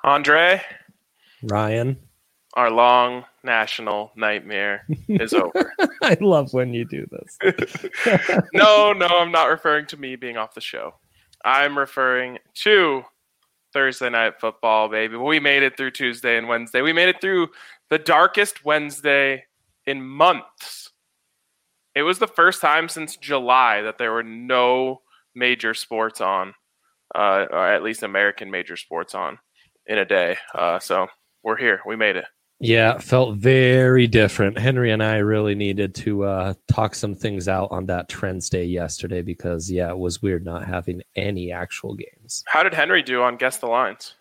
Andre, Ryan. our long national nightmare is over. I love when you do this. No, I'm not referring to me being off the show. I'm referring to Thursday Night Football, baby. We made it through Tuesday and Wednesday. We made it through the darkest Wednesday in months. It was the first time since July that there were no major sports on, or at least American major sports on, in a day. So we're here. We made it. Yeah, felt very different. Henry and I really needed to talk some things out on that Trends Day yesterday because, yeah, it was weird not having any actual games. How did Henry do on Guess the Lines?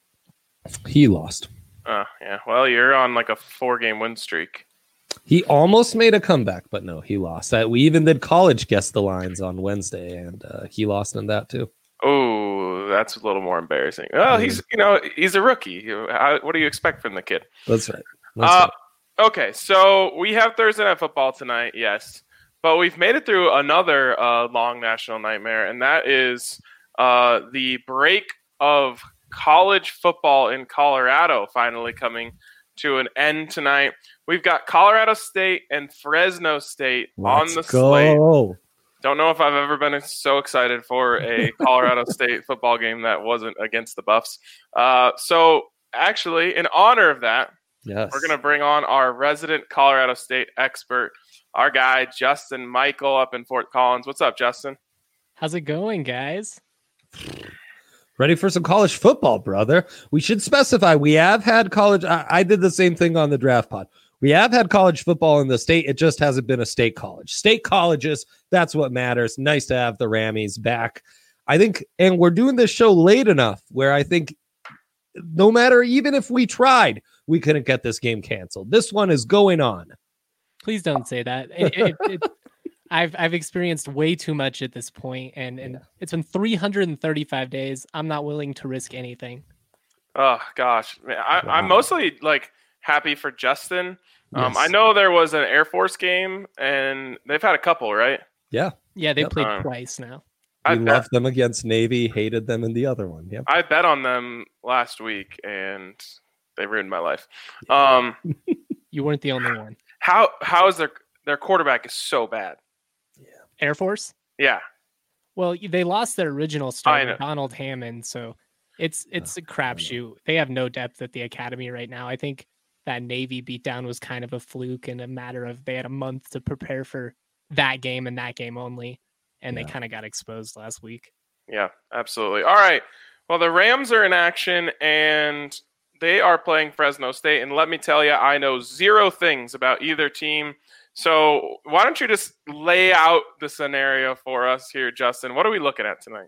He lost. Oh, yeah. Well, you're on like a 4-game win streak. He almost made a comeback, but no, he lost. We even did college Guess the Lines on Wednesday, and he lost in that too. Oh, that's a little more embarrassing. Well, he's a rookie. What do you expect from the kid? That's right. Okay, so we have Thursday Night Football tonight, yes. But we've made it through another long national nightmare, and that is the break of college football in Colorado finally coming to an end tonight. We've got Colorado State and Fresno State on the slate. Don't know if I've ever been so excited for a Colorado State football game that wasn't against the Buffs. So actually, in honor of that, yes, we're going to bring on our resident Colorado State expert, our guy, Justin Michael, up in Fort Collins. What's up, Justin? How's it going, guys? Ready for some college football, brother. We should specify we have had college. I did the same thing on the draft pod. We have had college football in the state. It just hasn't been a state college. State colleges, that's what matters. Nice to have the Rammies back. I think, and we're doing this show late enough where I think no matter, even if we tried, we couldn't get this game canceled. This one is going on. Please don't say that. I've experienced way too much at this point, and it's been 335 days. I'm not willing to risk anything. Oh, gosh. Man, I'm mostly like happy for Justin. Yes. I know there was an Air Force game, and they've had a couple, right? Yeah. Yeah, they played twice now. We loved them against Navy, hated them in the other one. Yep. I bet on them last week, and they ruined my life. You weren't the only one. How is their quarterback is so bad? Yeah. Air Force? Yeah. Well, they lost their original starter, Donald Hammond, so it's a crapshoot. They have no depth at the academy right now. I think that Navy beatdown was kind of a fluke and a matter of they had a month to prepare for that game and that game only, and they kind of got exposed last week. Yeah, absolutely. All right. Well, the Rams are in action, and they are playing Fresno State. And let me tell you, I know zero things about either team. So why don't you just lay out the scenario for us here, Justin? What are we looking at tonight?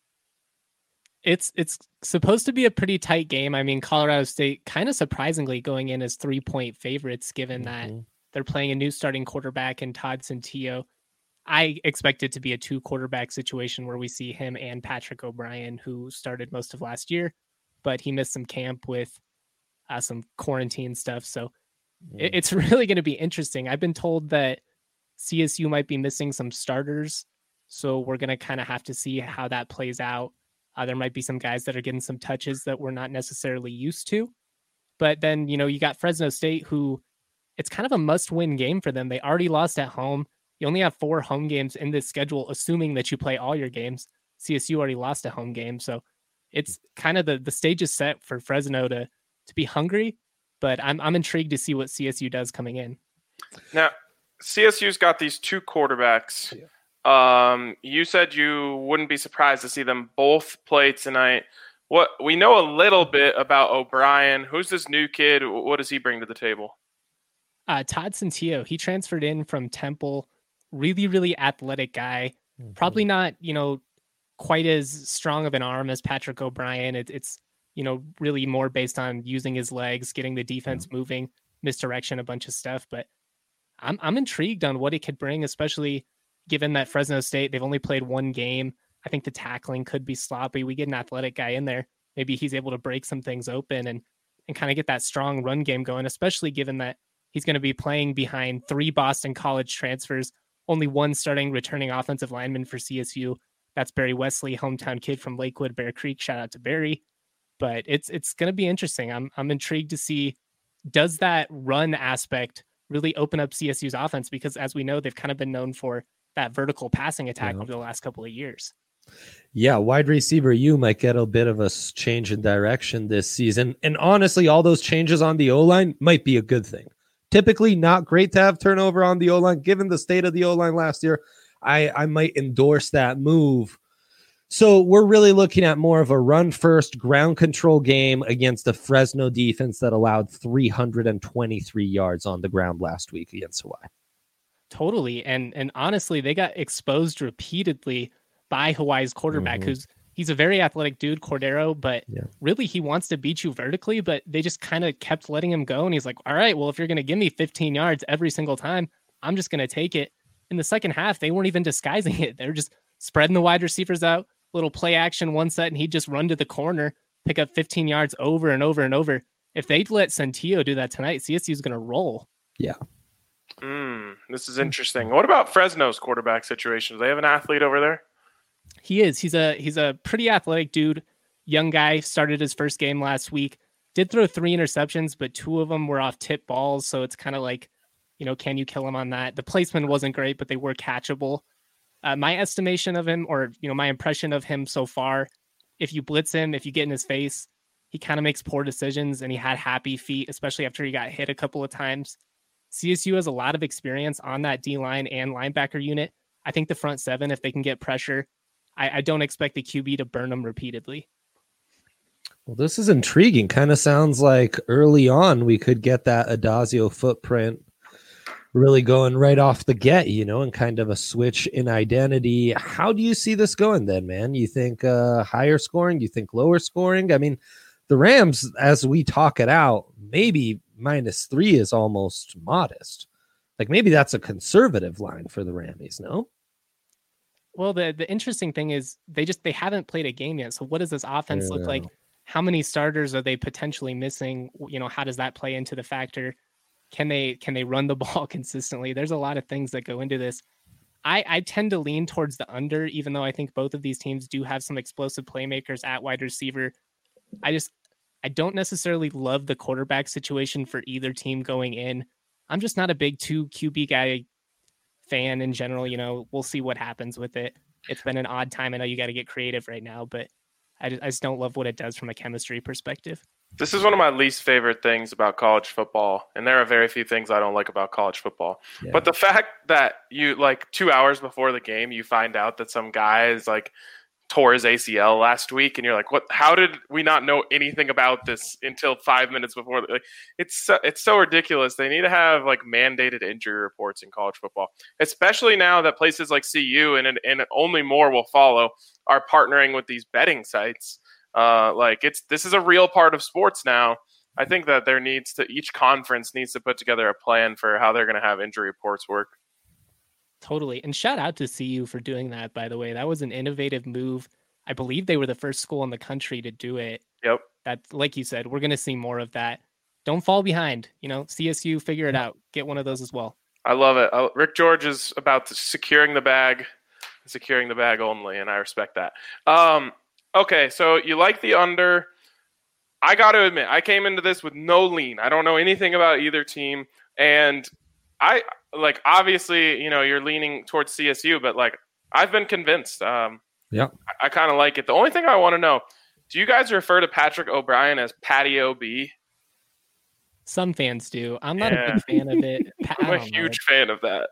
It's supposed to be a pretty tight game. I mean, Colorado State kind of surprisingly going in as 3-point favorites, given that they're playing a new starting quarterback in Todd Centillo. I expect it to be a 2-quarterback situation where we see him and Patrick O'Brien, who started most of last year, but he missed some camp with some quarantine stuff. So it's really going to be interesting. I've been told that CSU might be missing some starters, so we're going to kind of have to see how that plays out. There might be some guys that are getting some touches that we're not necessarily used to. But then, you got Fresno State, who it's kind of a must-win game for them. They already lost at home. You only have 4 home games in this schedule, assuming that you play all your games. CSU already lost a home game. So it's kind of the stage is set for Fresno to be hungry. But I'm intrigued to see what CSU does coming in. Now, CSU's got these 2 quarterbacks. Yeah. You said you wouldn't be surprised to see them both play tonight. What we know a little bit about O'Brien. Who's this new kid? What does he bring to the table? Todd Centillo. He transferred in from Temple. Really, really athletic guy. Mm-hmm. Probably not, quite as strong of an arm as Patrick O'Brien. It's really more based on using his legs, getting the defense moving, misdirection, a bunch of stuff. But I'm intrigued on what it could bring, especially given that Fresno State, they've only played 1 game. I think the tackling could be sloppy. We get an athletic guy in there. Maybe he's able to break some things open and kind of get that strong run game going, especially given that he's going to be playing behind 3 Boston College transfers, only 1 starting returning offensive lineman for CSU. That's Barry Wesley, hometown kid from Lakewood, Bear Creek. Shout out to Barry. but it's going to be interesting. I'm intrigued to see, does that run aspect really open up CSU's offense? Because as we know, they've kind of been known for that vertical passing attack over the last couple of years. Yeah, wide receiver, you might get a bit of a change in direction this season. And honestly, all those changes on the O-line might be a good thing. Typically not great to have turnover on the O-line. Given the state of the O-line last year, I might endorse that move. So we're really looking at more of a run-first ground control game against the Fresno defense that allowed 323 yards on the ground last week against Hawaii. Totally. And honestly, they got exposed repeatedly by Hawaii's quarterback, he's a very athletic dude, Cordero, but really he wants to beat you vertically, but they just kind of kept letting him go. And he's like, all right, well, if you're going to give me 15 yards every single time, I'm just going to take it. In the second half, they weren't even disguising it. They were just spreading the wide receivers out, little play action one set, and he'd just run to the corner, pick up 15 yards over and over and over. If they'd let Centillo do that tonight, CSU's going to roll. Yeah. This is interesting. What about Fresno's quarterback situation? Do they have an athlete over there? He is. He's a pretty athletic dude. Young guy, started his first game last week. Did throw 3 interceptions, but 2 of them were off tip balls. So it's kind of like, can you kill him on that? The placement wasn't great, but they were catchable. My estimation of him, or my impression of him so far, if you blitz him, if you get in his face, he kind of makes poor decisions, and he had happy feet, especially after he got hit a couple of times. CSU has a lot of experience on that D-line and linebacker unit. I think the front 7, if they can get pressure, I don't expect the QB to burn them repeatedly. Well, this is intriguing. Kind of sounds like early on we could get that Adazio footprint really going right off the get, and kind of a switch in identity. How do you see this going then, man? You think higher scoring? You think lower scoring? I mean, the Rams, as we talk it out, maybe -3 is almost modest. Like maybe that's a conservative line for the Rammies, no? Well, the interesting thing is they haven't played a game yet. So what does this offense look like? How many starters are they potentially missing? How does that play into the factor? Can they run the ball consistently? There's a lot of things that go into this. I tend to lean towards the under, even though I think both of these teams do have some explosive playmakers at wide receiver. I don't necessarily love the quarterback situation for either team going in. I'm just not a big 2 QB guy fan in general. We'll see what happens with it. It's been an odd time. I know you got to get creative right now, but I just don't love what it does from a chemistry perspective. This is one of my least favorite things about college football, and there are very few things I don't like about college football. Yeah. But the fact that you 2 hours before the game, you find out that some guy is tore his ACL last week, and you're like, what? How did we not know anything about this until 5 minutes before? It's so ridiculous. They need to have mandated injury reports in college football, especially now that places like CU and only more will follow are partnering with these betting sites. This is a real part of sports now. I think that each conference needs to put together a plan for how they're going to have injury reports work. Totally. And shout out to CU for doing that, by the way. That was an innovative move. I believe they were the first school in the country to do it. Yep. That, like you said, we're going to see more of that. Don't fall behind. CSU, figure it out. Get one of those as well. I love it. Rick George is about securing the bag only, and I respect that. Okay, so you like the under. I got to admit, I came into this with no lean. I don't know anything about either team, and obviously, you're leaning towards CSU, but I've been convinced. Yeah, I kind of like it. The only thing I want to know, do you guys refer to Patrick O'Brien as Patty OB? Some fans do. I'm not a big fan of it. I'm a huge fan of that.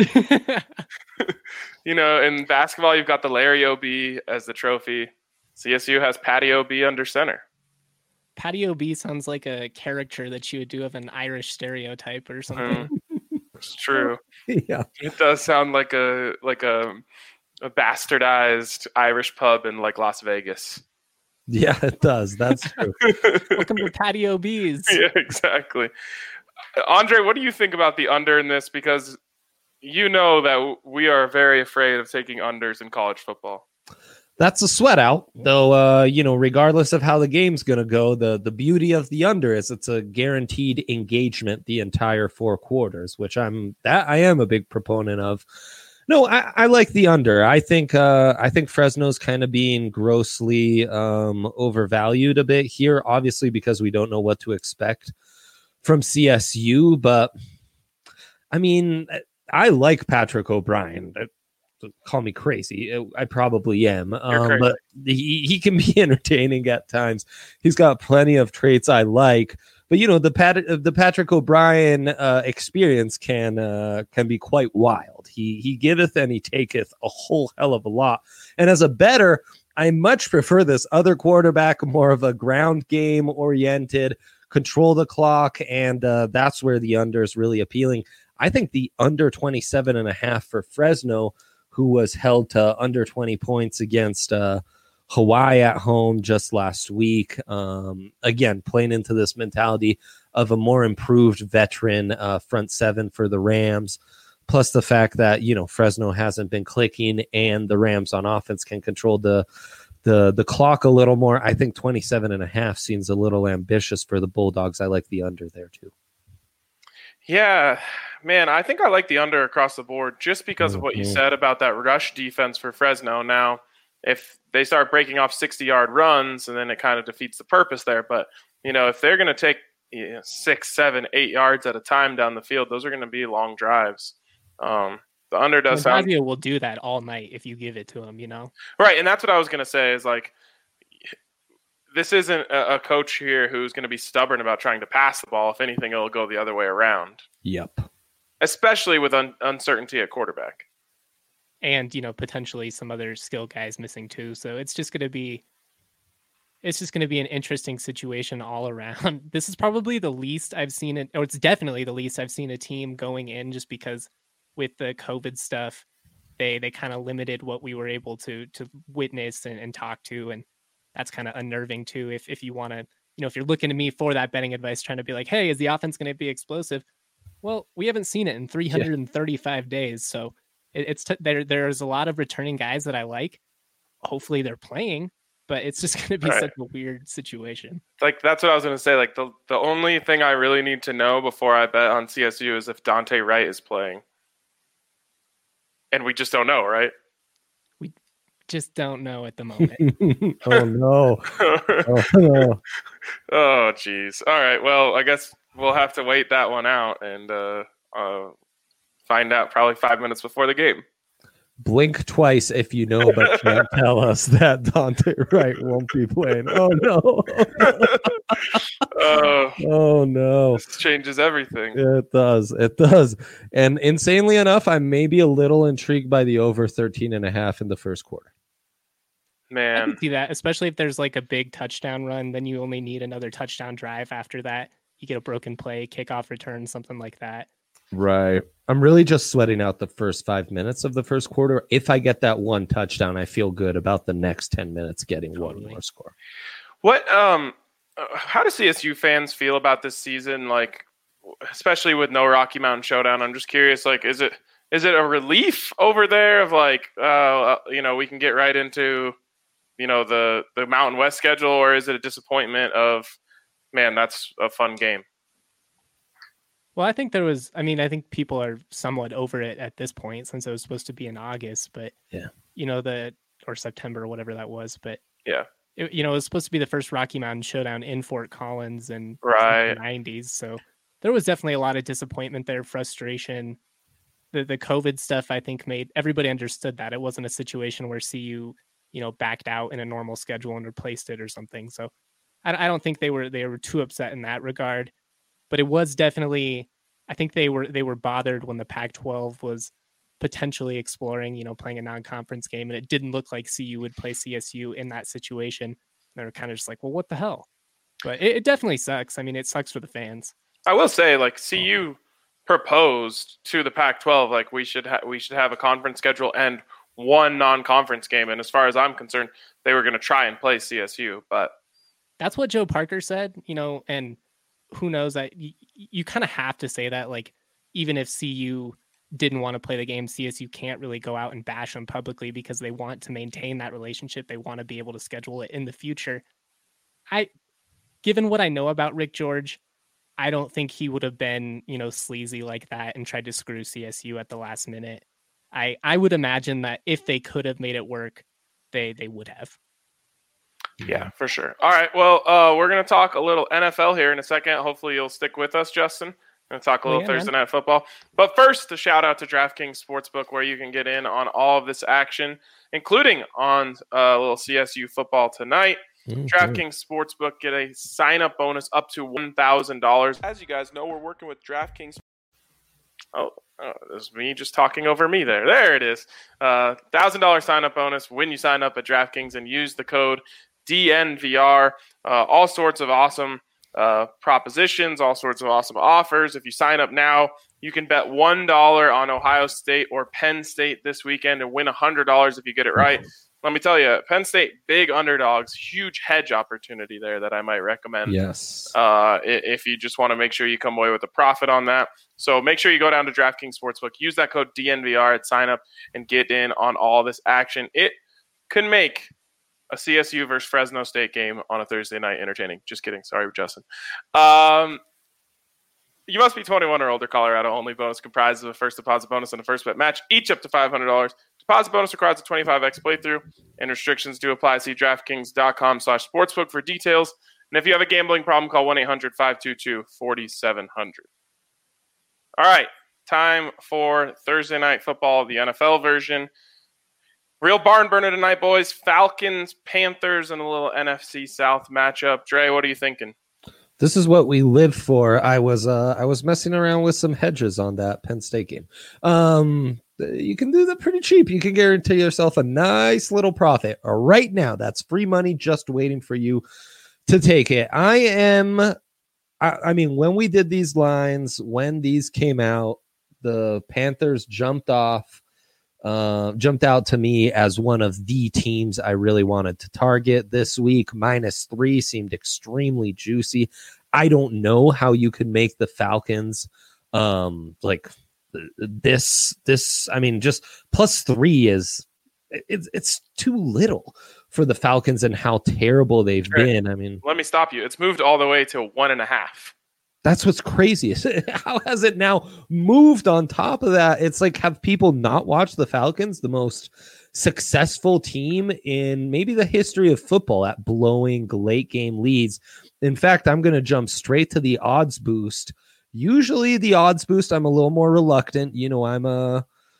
In basketball, you've got the Larry OB as the trophy. CSU has Patty OB under center. Patty OB sounds like a character that you would do of an Irish stereotype or something. It's true. Yeah, it does sound like a bastardized Irish pub in Las Vegas. Yeah, it does. That's true. Welcome to Patty OB's. Yeah, exactly. Andre, what do you think about the under in this? Because that we are very afraid of taking unders in college football. That's a sweat out, though. Regardless of how the game's going to go, the beauty of the under is it's a guaranteed engagement the entire 4 quarters, which I am a big proponent of. No, I like the under. I think Fresno's kind of being grossly overvalued a bit here, obviously because we don't know what to expect from CSU. But I mean, I like Patrick O'Brien. Call me crazy. I probably am. But he can be entertaining at times. He's got plenty of traits I like. But the Patrick O'Brien experience can be quite wild. He giveth and he taketh a whole hell of a lot. And as a bettor, I much prefer this other quarterback, more of a ground game oriented, control the clock, and that's where the under is really appealing. I think the under 27.5 for Fresno, who was held to under 20 points against Hawaii at home just last week. Again, playing into this mentality of a more improved veteran front seven for the Rams, plus the fact that, Fresno hasn't been clicking and the Rams on offense can control the clock a little more. I think 27.5 seems a little ambitious for the Bulldogs. I like the under there too. Yeah, man, I think I like the under across the board just because of what you said about that rush defense for Fresno. Now, if they start breaking off 60-yard runs, and then it kind of defeats the purpose there. But, if they're going to take 6, 7, 8 yards at a time down the field, those are going to be long drives. The under does sound... will do that all night if you give it to him, Right, and that's what I was going to say is, like, this isn't a coach here who's going to be stubborn about trying to pass the ball. If anything, it'll go the other way around. Yep. Especially with uncertainty at quarterback. And, potentially some other skill guys missing too. So it's just going to be an interesting situation all around. This is probably the least I've seen it, or it's definitely the least I've seen a team going in, just because with the COVID stuff, they kind of limited what we were able to witness and talk to. And that's kind of unnerving too. If you want to, if you're looking to me for that betting advice, trying to be like, hey, is the offense going to be explosive? Well, we haven't seen it in 335 days. So there's a lot of returning guys that I like. Hopefully they're playing, but it's just going to be such a weird situation. Like, that's what I was going to say. Like, the only thing I really need to know before I bet on CSU is if Dante Wright is playing. And we just don't know, right? We just don't know at the moment. Oh, no. Oh, no. Oh, geez. All right. Well, I guess we'll have to wait that one out and find out probably 5 minutes before the game. Blink twice if you know, but can't tell us that Dante Wright won't be playing. Oh, no. Oh, no. This changes everything. It does. It does. And insanely enough, I may be a little intrigued by the over 13.5 in the first quarter. Man. I can see that, especially if there's like a big touchdown run, then you only need another touchdown drive after that. You get a broken play, kickoff return, something like that. Right. I'm really just sweating out the first 5 minutes of the first quarter. If I get that one touchdown, I feel good about the next 10 minutes getting one more score. What how do CSU fans feel about this season, like especially with no Rocky Mountain Showdown? I'm just curious, like is it a relief over there of like we can get right into the Mountain West schedule, or is it a disappointment of, man, that's a fun game? Well, I think I think people are somewhat over it at this point since it was supposed to be in August, but or September or whatever that was. But yeah, it was supposed to be the first Rocky Mountain Showdown in Fort Collins in the 90s. So there was definitely a lot of disappointment there, frustration. The COVID stuff, I think, made everybody understood that it wasn't a situation where CU, backed out in a normal schedule and replaced it or something. So I don't think they were too upset in that regard. But it was definitely, I think they were bothered when the Pac-12 was potentially exploring, playing a non-conference game, and it didn't look like CU would play CSU in that situation. They were kind of just like, well, what the hell? But it definitely sucks. I mean, it sucks for the fans. I will say, like, CU proposed to the Pac-12, like, we should have a conference schedule and one non-conference game. And as far as I'm concerned, they were going to try and play CSU, but that's what Joe Parker said, and who knows, that you kind of have to say that, like, even if CU didn't want to play the game, CSU can't really go out and bash them publicly because they want to maintain that relationship. They want to be able to schedule it in the future. Given what I know about Rick George, I don't think he would have been, sleazy like that and tried to screw CSU at the last minute. I would imagine that if they could have made it work, they would have. Yeah, for sure. All right. Well, we're going to talk a little NFL here in a second. Hopefully you'll stick with us, Justin. We're going to talk a little Thursday Night Football. But first, a shout out to DraftKings Sportsbook, where you can get in on all of this action, including on a little CSU football tonight. DraftKings Sportsbook, get a sign-up bonus up to $1,000. As you guys know, we're working with DraftKings. Oh, this is me just talking over me there. There it is. $1,000 sign-up bonus when you sign up at DraftKings and use the code DNVR. All sorts of awesome propositions, all sorts of awesome offers. If you sign up now, you can bet $1 on Ohio State or Penn State this weekend and win $100 if you get it right. Let me tell you, Penn State, big underdogs, huge hedge opportunity there that I might recommend. Yes. If you just want to make sure you come away with a profit on that. So make sure you go down to DraftKings Sportsbook, use that code DNVR at sign up, and get in on all this action. It could make a CSU versus Fresno State game on a Thursday night entertaining. Just kidding. Sorry, Justin. You must be 21 or older. Colorado only. Bonus comprises of a first deposit bonus and a first bet match, each up to $500. Deposit bonus requires a 25x playthrough, and restrictions do apply. See DraftKings.com/sportsbook for details. And if you have a gambling problem, call 1-800-522-4700. All right, time for Thursday Night Football, the NFL version. Real barn burner tonight, boys. Falcons, Panthers, and a little NFC South matchup. Dre, what are you thinking? This is what we live for. I was messing around with some hedges on that Penn State game. You can do that pretty cheap. You can guarantee yourself a nice little profit right now. That's free money just waiting for you to take it. I mean, when we did these lines, when these came out, the Panthers jumped out to me as one of the teams I really wanted to target this week. -3 seemed extremely juicy. I don't know how you could make the Falcons like this. I mean, just +3 is it's too little for the Falcons and how terrible they've been. I mean, let me stop you. It's moved all the way to 1.5. That's what's crazy. How has it now moved on top of that? It's like, have people not watched the Falcons, the most successful team in maybe the history of football at blowing late game leads? In fact, I'm going to jump straight to the odds boost. Usually the odds boost, I'm a little more reluctant. I'm a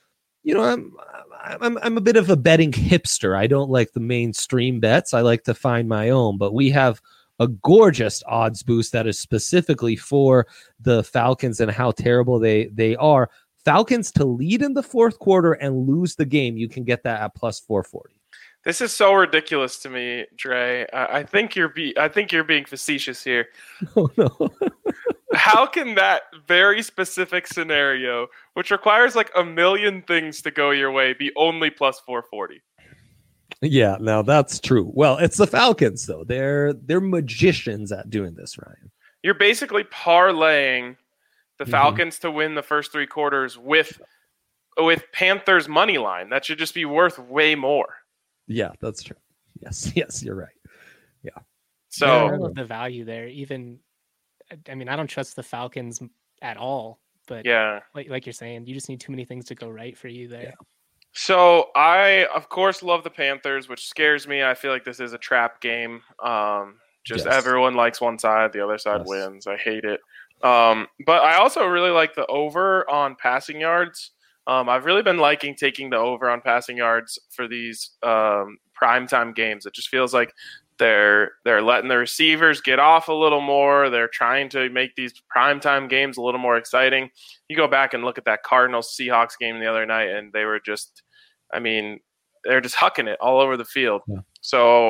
bit of a betting hipster. I don't like the mainstream bets. I like to find my own, but we have a gorgeous odds boost that is specifically for the Falcons and how terrible they are. Falcons to lead in the fourth quarter and lose the game. You can get that at +440. This is so ridiculous to me, Dre. I think you're being facetious here. Oh no. How can that very specific scenario, which requires like a million things to go your way, be only +440? Yeah, now that's true. Well, it's the Falcons, though. They're magicians at doing this, Ryan. You're basically parlaying the Falcons to win the first 3 quarters with Panthers money line. That should just be worth way more. Yeah, that's true. Yes, you're right. Yeah. So I love the value there. Even, I mean, I don't trust the Falcons at all. But yeah, like you're saying, you just need too many things to go right for you there. Yeah. So I, of course, love the Panthers, which scares me. I feel like this is a trap game. Everyone likes one side, the other side wins. I hate it. But I also really like the over on passing yards. I've really been liking taking the over on passing yards for these primetime games. It just feels like they're letting the receivers get off a little more. They're trying to make these primetime games a little more exciting. You go back and look at that Cardinals-Seahawks game the other night, and they were just – they're just hucking it all over the field. Yeah. So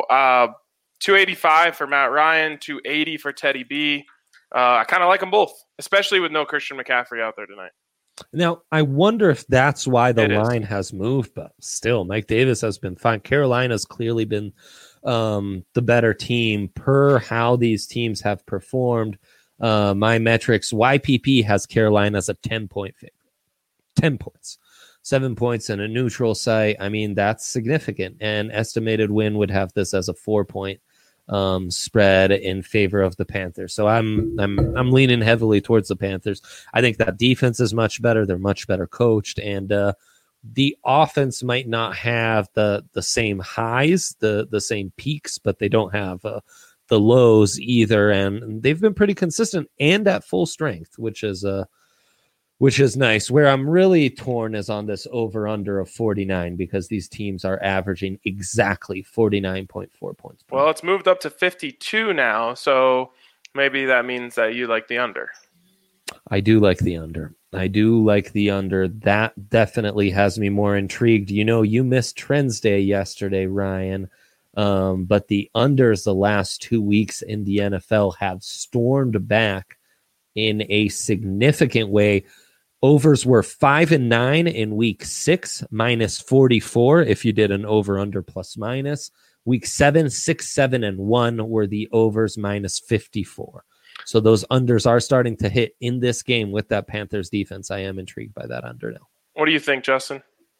285 for Matt Ryan, 280 for Teddy B. I kind of like them both, especially with no Christian McCaffrey out there tonight. Now, I wonder if that's why the line has moved, but still, Mike Davis has been fine. Carolina's clearly been the better team per how these teams have performed. My metrics, YPP has Carolina as a 10-point favorite. 10 points. 7 points in a neutral site. I mean, that's significant. And estimated win would have this as a 4-point spread in favor of the Panthers. So I'm leaning heavily towards the Panthers. I think that defense is much better. They're much better coached, and the offense might not have the same highs, the same peaks, but they don't have the lows either. And they've been pretty consistent and at full strength, which is nice. Where I'm really torn is on this over under of 49, because these teams are averaging exactly 49.4 points. Well, it's moved up to 52 now, so maybe that means that you like the under. I do like the under. That definitely has me more intrigued. You missed Trends Day yesterday, Ryan. But the unders the last 2 weeks in the NFL have stormed back in a significant way. Overs were 5-9 in week 6, minus 44 if you did an over-under plus minus. Week 7, 6, 7, and 1 were the overs, minus 54. So those unders are starting to hit in this game with that Panthers defense. I am intrigued by that under now. What do you think, Justin?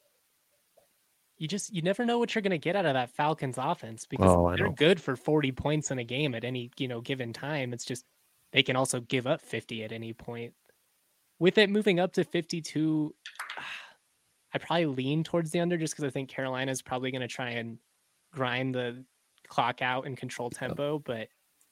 You never know what you're going to get out of that Falcons offense, because they're good for 40 points in a game at any given time. It's just they can also give up 50 at any point. With it moving up to 52, I probably lean towards the under, just because I think Carolina is probably going to try and grind the clock out and control tempo. But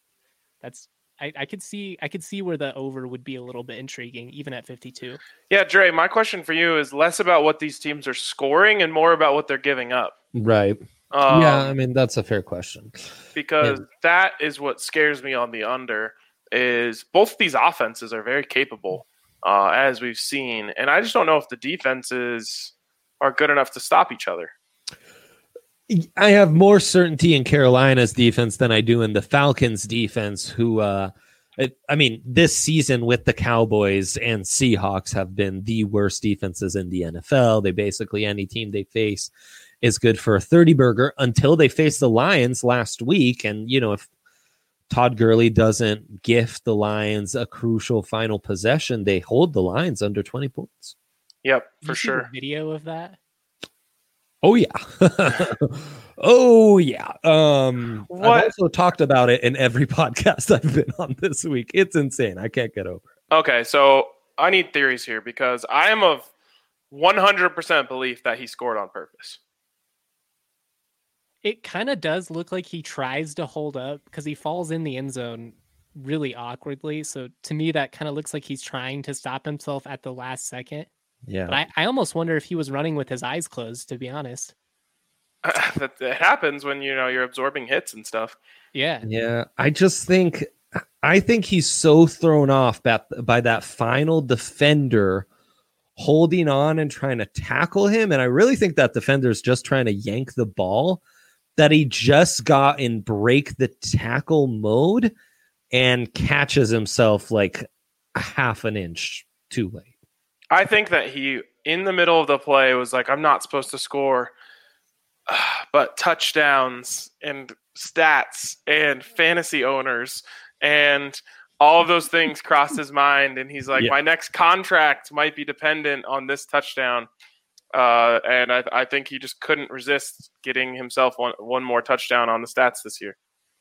I could see where the over would be a little bit intriguing, even at 52. Yeah, Dre, my question for you is less about what these teams are scoring and more about what they're giving up. Right. Yeah, I mean, that's a fair question. Because that is what scares me on the under, is both these offenses are very capable, as we've seen. And I just don't know if the defenses are good enough to stop each other. I have more certainty in Carolina's defense than I do in the Falcons' defense, who, this season with the Cowboys and Seahawks have been the worst defenses in the NFL. They basically, any team they face is good for a 30-burger until they face the Lions last week. And, if Todd Gurley doesn't gift the Lions a crucial final possession, they hold the Lions under 20 points. Yep, for sure. See the video of that? Oh, yeah. Oh, yeah. I've also talked about it in every podcast I've been on this week. It's insane. I can't get over it. Okay, so I need theories here, because I am of 100% belief that he scored on purpose. It kind of does look like he tries to hold up, because he falls in the end zone really awkwardly. So to me, that kind of looks like he's trying to stop himself at the last second. Yeah, but I almost wonder if he was running with his eyes closed, to be honest. It happens when you're absorbing hits and stuff. Yeah. I think he's so thrown off by that final defender holding on and trying to tackle him, and I really think that defender's just trying to yank the ball, that he just got in break the tackle mode and catches himself like a half an inch too late. I think that he, in the middle of the play, was like, I'm not supposed to score, but touchdowns and stats and fantasy owners and all of those things crossed his mind. And he's like, my next contract might be dependent on this touchdown. And I think he just couldn't resist getting himself one more touchdown on the stats this year.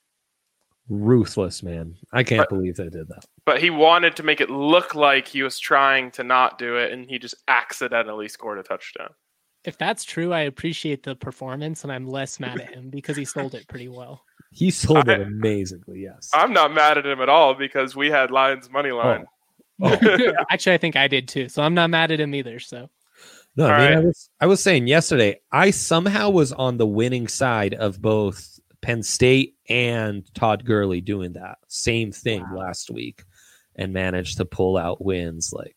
Ruthless, man. I can't believe they did that. But he wanted to make it look like he was trying to not do it, and he just accidentally scored a touchdown. If that's true, I appreciate the performance, and I'm less mad at him because he sold it pretty well. He sold it amazingly, yes. I'm not mad at him at all, because we had Lions money line. Actually, I think I did too, so I'm not mad at him either. So, no, I was saying yesterday, I somehow was on the winning side of both Penn State and Todd Gurley doing that same thing last week and managed to pull out wins like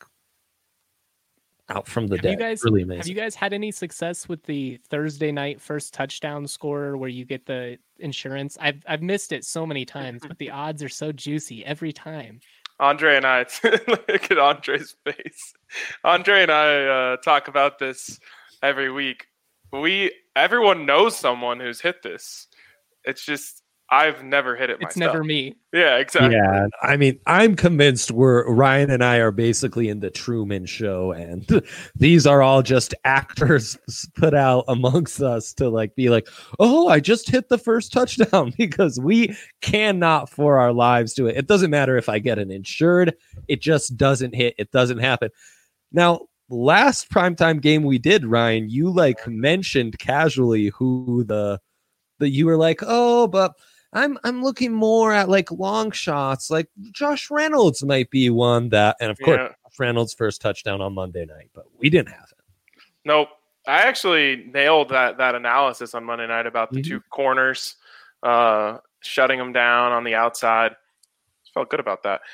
out from the dead. Really amazing. Have you guys had any success with the Thursday night first touchdown scorer where you get the insurance? I've missed it so many times, but the odds are so juicy every time. Andre and I, look at Andre's face. Andre and I talk about this every week. Everyone knows someone who's hit this. It's just, I've never hit it myself. It's never me. Yeah, exactly. Yeah, I mean, I'm convinced Ryan and I are basically in the Truman Show, and these are all just actors put out amongst us to be like, oh, I just hit the first touchdown, because we cannot for our lives do it. It doesn't matter if I get an insured. It just doesn't hit. It doesn't happen. Now, last primetime game we did, Ryan, you like mentioned casually who the you were like, oh, but I'm looking more at like long shots, like Josh Reynolds might be one that, and of course, Josh Reynolds' first touchdown on Monday night, but we didn't have it. Nope. I actually nailed that analysis on Monday night about the two corners, shutting them down on the outside. Felt good about that.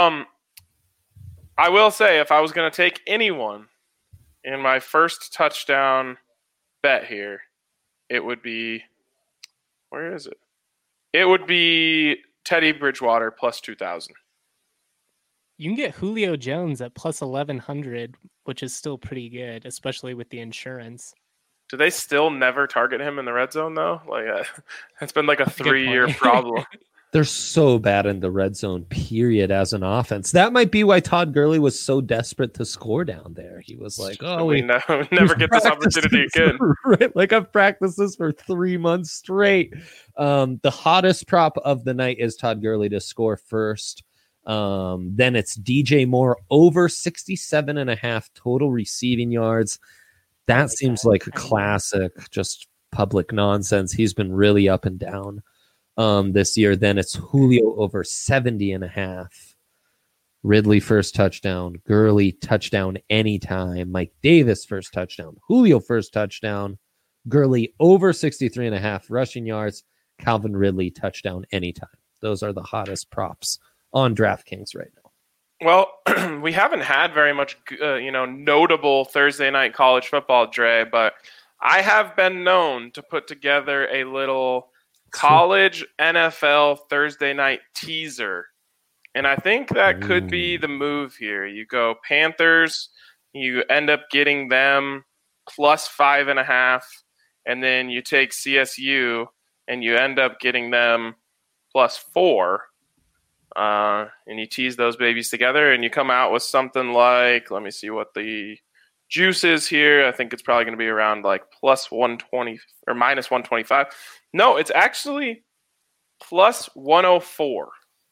I will say, if I was going to take anyone in my first touchdown bet here, it would be, where is it? It would be Teddy Bridgewater plus 2,000. You can get Julio Jones at plus 1,100, which is still pretty good, especially with the insurance. Do they still never target him in the red zone, though? Like, it's been like a 3-year problem. They're so bad in the red zone, period, as an offense. That might be why Todd Gurley was so desperate to score down there. He was like, oh, we never get this opportunity again. Right? Like, I've practiced this for 3 months straight. The hottest prop of the night is Todd Gurley to score first. Then it's DJ Moore over 67.5 total receiving yards. That seems like a classic, just public nonsense. He's been really up and down this year. Then it's Julio over 70.5. Ridley first touchdown. Gurley touchdown anytime. Mike Davis first touchdown. Julio first touchdown. Gurley over 63.5 rushing yards. Calvin Ridley touchdown anytime. Those are the hottest props on DraftKings right now. Well, we haven't had very much, notable Thursday night college football, Dre, but I have been known to put together a little college NFL Thursday night teaser. And I think that could be the move here. You go Panthers, you end up getting them plus 5.5, and then you take CSU and you end up getting them plus 4. And you tease those babies together and you come out with something like, let me see what the juice is here. I think it's probably going to be around like plus 120 or minus 125. No, it's actually plus 104.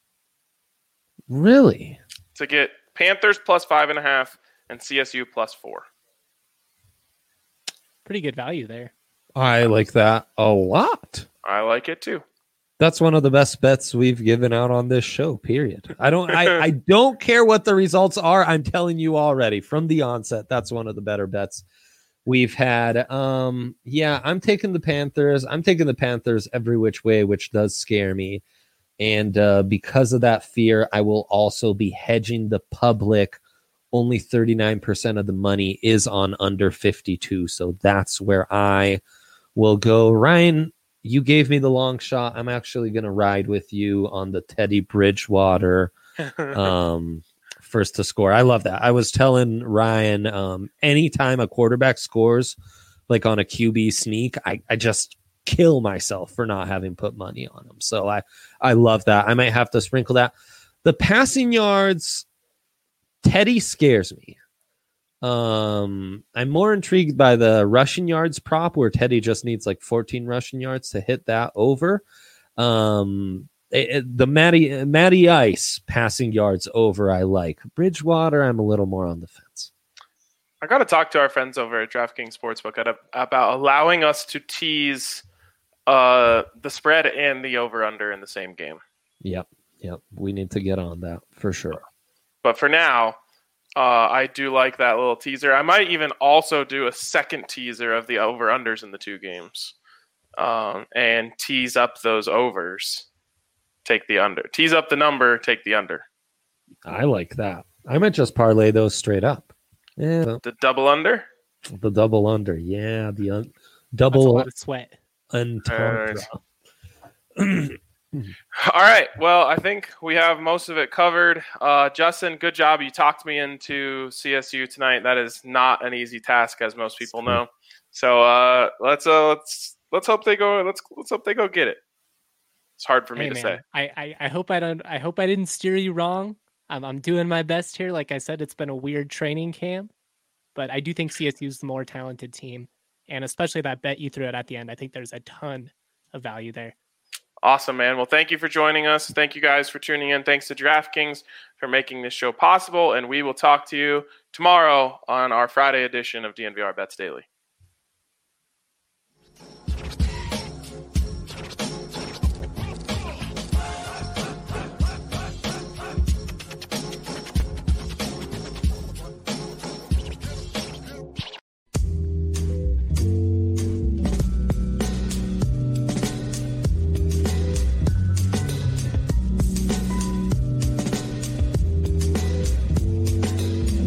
Really? To get Panthers plus 5.5 and CSU plus 4. Pretty good value there. I like that a lot. I like it too. That's one of the best bets we've given out on this show, period. I don't care what the results are. I'm telling you already from the onset, that's one of the better bets we've had. I'm taking the Panthers. I'm taking the Panthers every which way, which does scare me. And because of that fear, I will also be hedging the public. Only 39% of the money is on under 52. So that's where I will go. Ryan, you gave me the long shot. I'm actually going to ride with you on the Teddy Bridgewater first to score. I love that. I was telling Ryan, anytime a quarterback scores, like on a QB sneak, I just kill myself for not having put money on him. So I love that. I might have to sprinkle that. The passing yards, Teddy scares me. I'm more intrigued by the rushing yards prop where Teddy just needs like 14 rushing yards to hit that over. The Matty Ice passing yards over I like. Bridgewater, I'm a little more on the fence. I got to talk to our friends over at DraftKings Sportsbook about allowing us to tease the spread and the over-under in the same game. Yep. We need to get on that for sure. But for now, I do like that little teaser. I might even also do a second teaser of the over-unders in the two games and tease up those overs. Take the under. Tease up the number, take the under. I like that. I might just parlay those straight up. Yeah. The double under? The double under. Yeah. The double. That's a lot of sweat. All right. Well, I think we have most of it covered. Justin, good job. You talked me into CSU tonight. That is not an easy task, as most people know. So let's hope they go. Let's hope they go get it. It's hard for me to say. I hope I didn't steer you wrong. I'm doing my best here. Like I said, it's been a weird training camp, but I do think CSU is the more talented team, and especially that bet you threw out at the end. I think there's a ton of value there. Awesome, man. Well, thank you for joining us. Thank you guys for tuning in. Thanks to DraftKings for making this show possible, and we will talk to you tomorrow on our Friday edition of DNVR Bets Daily.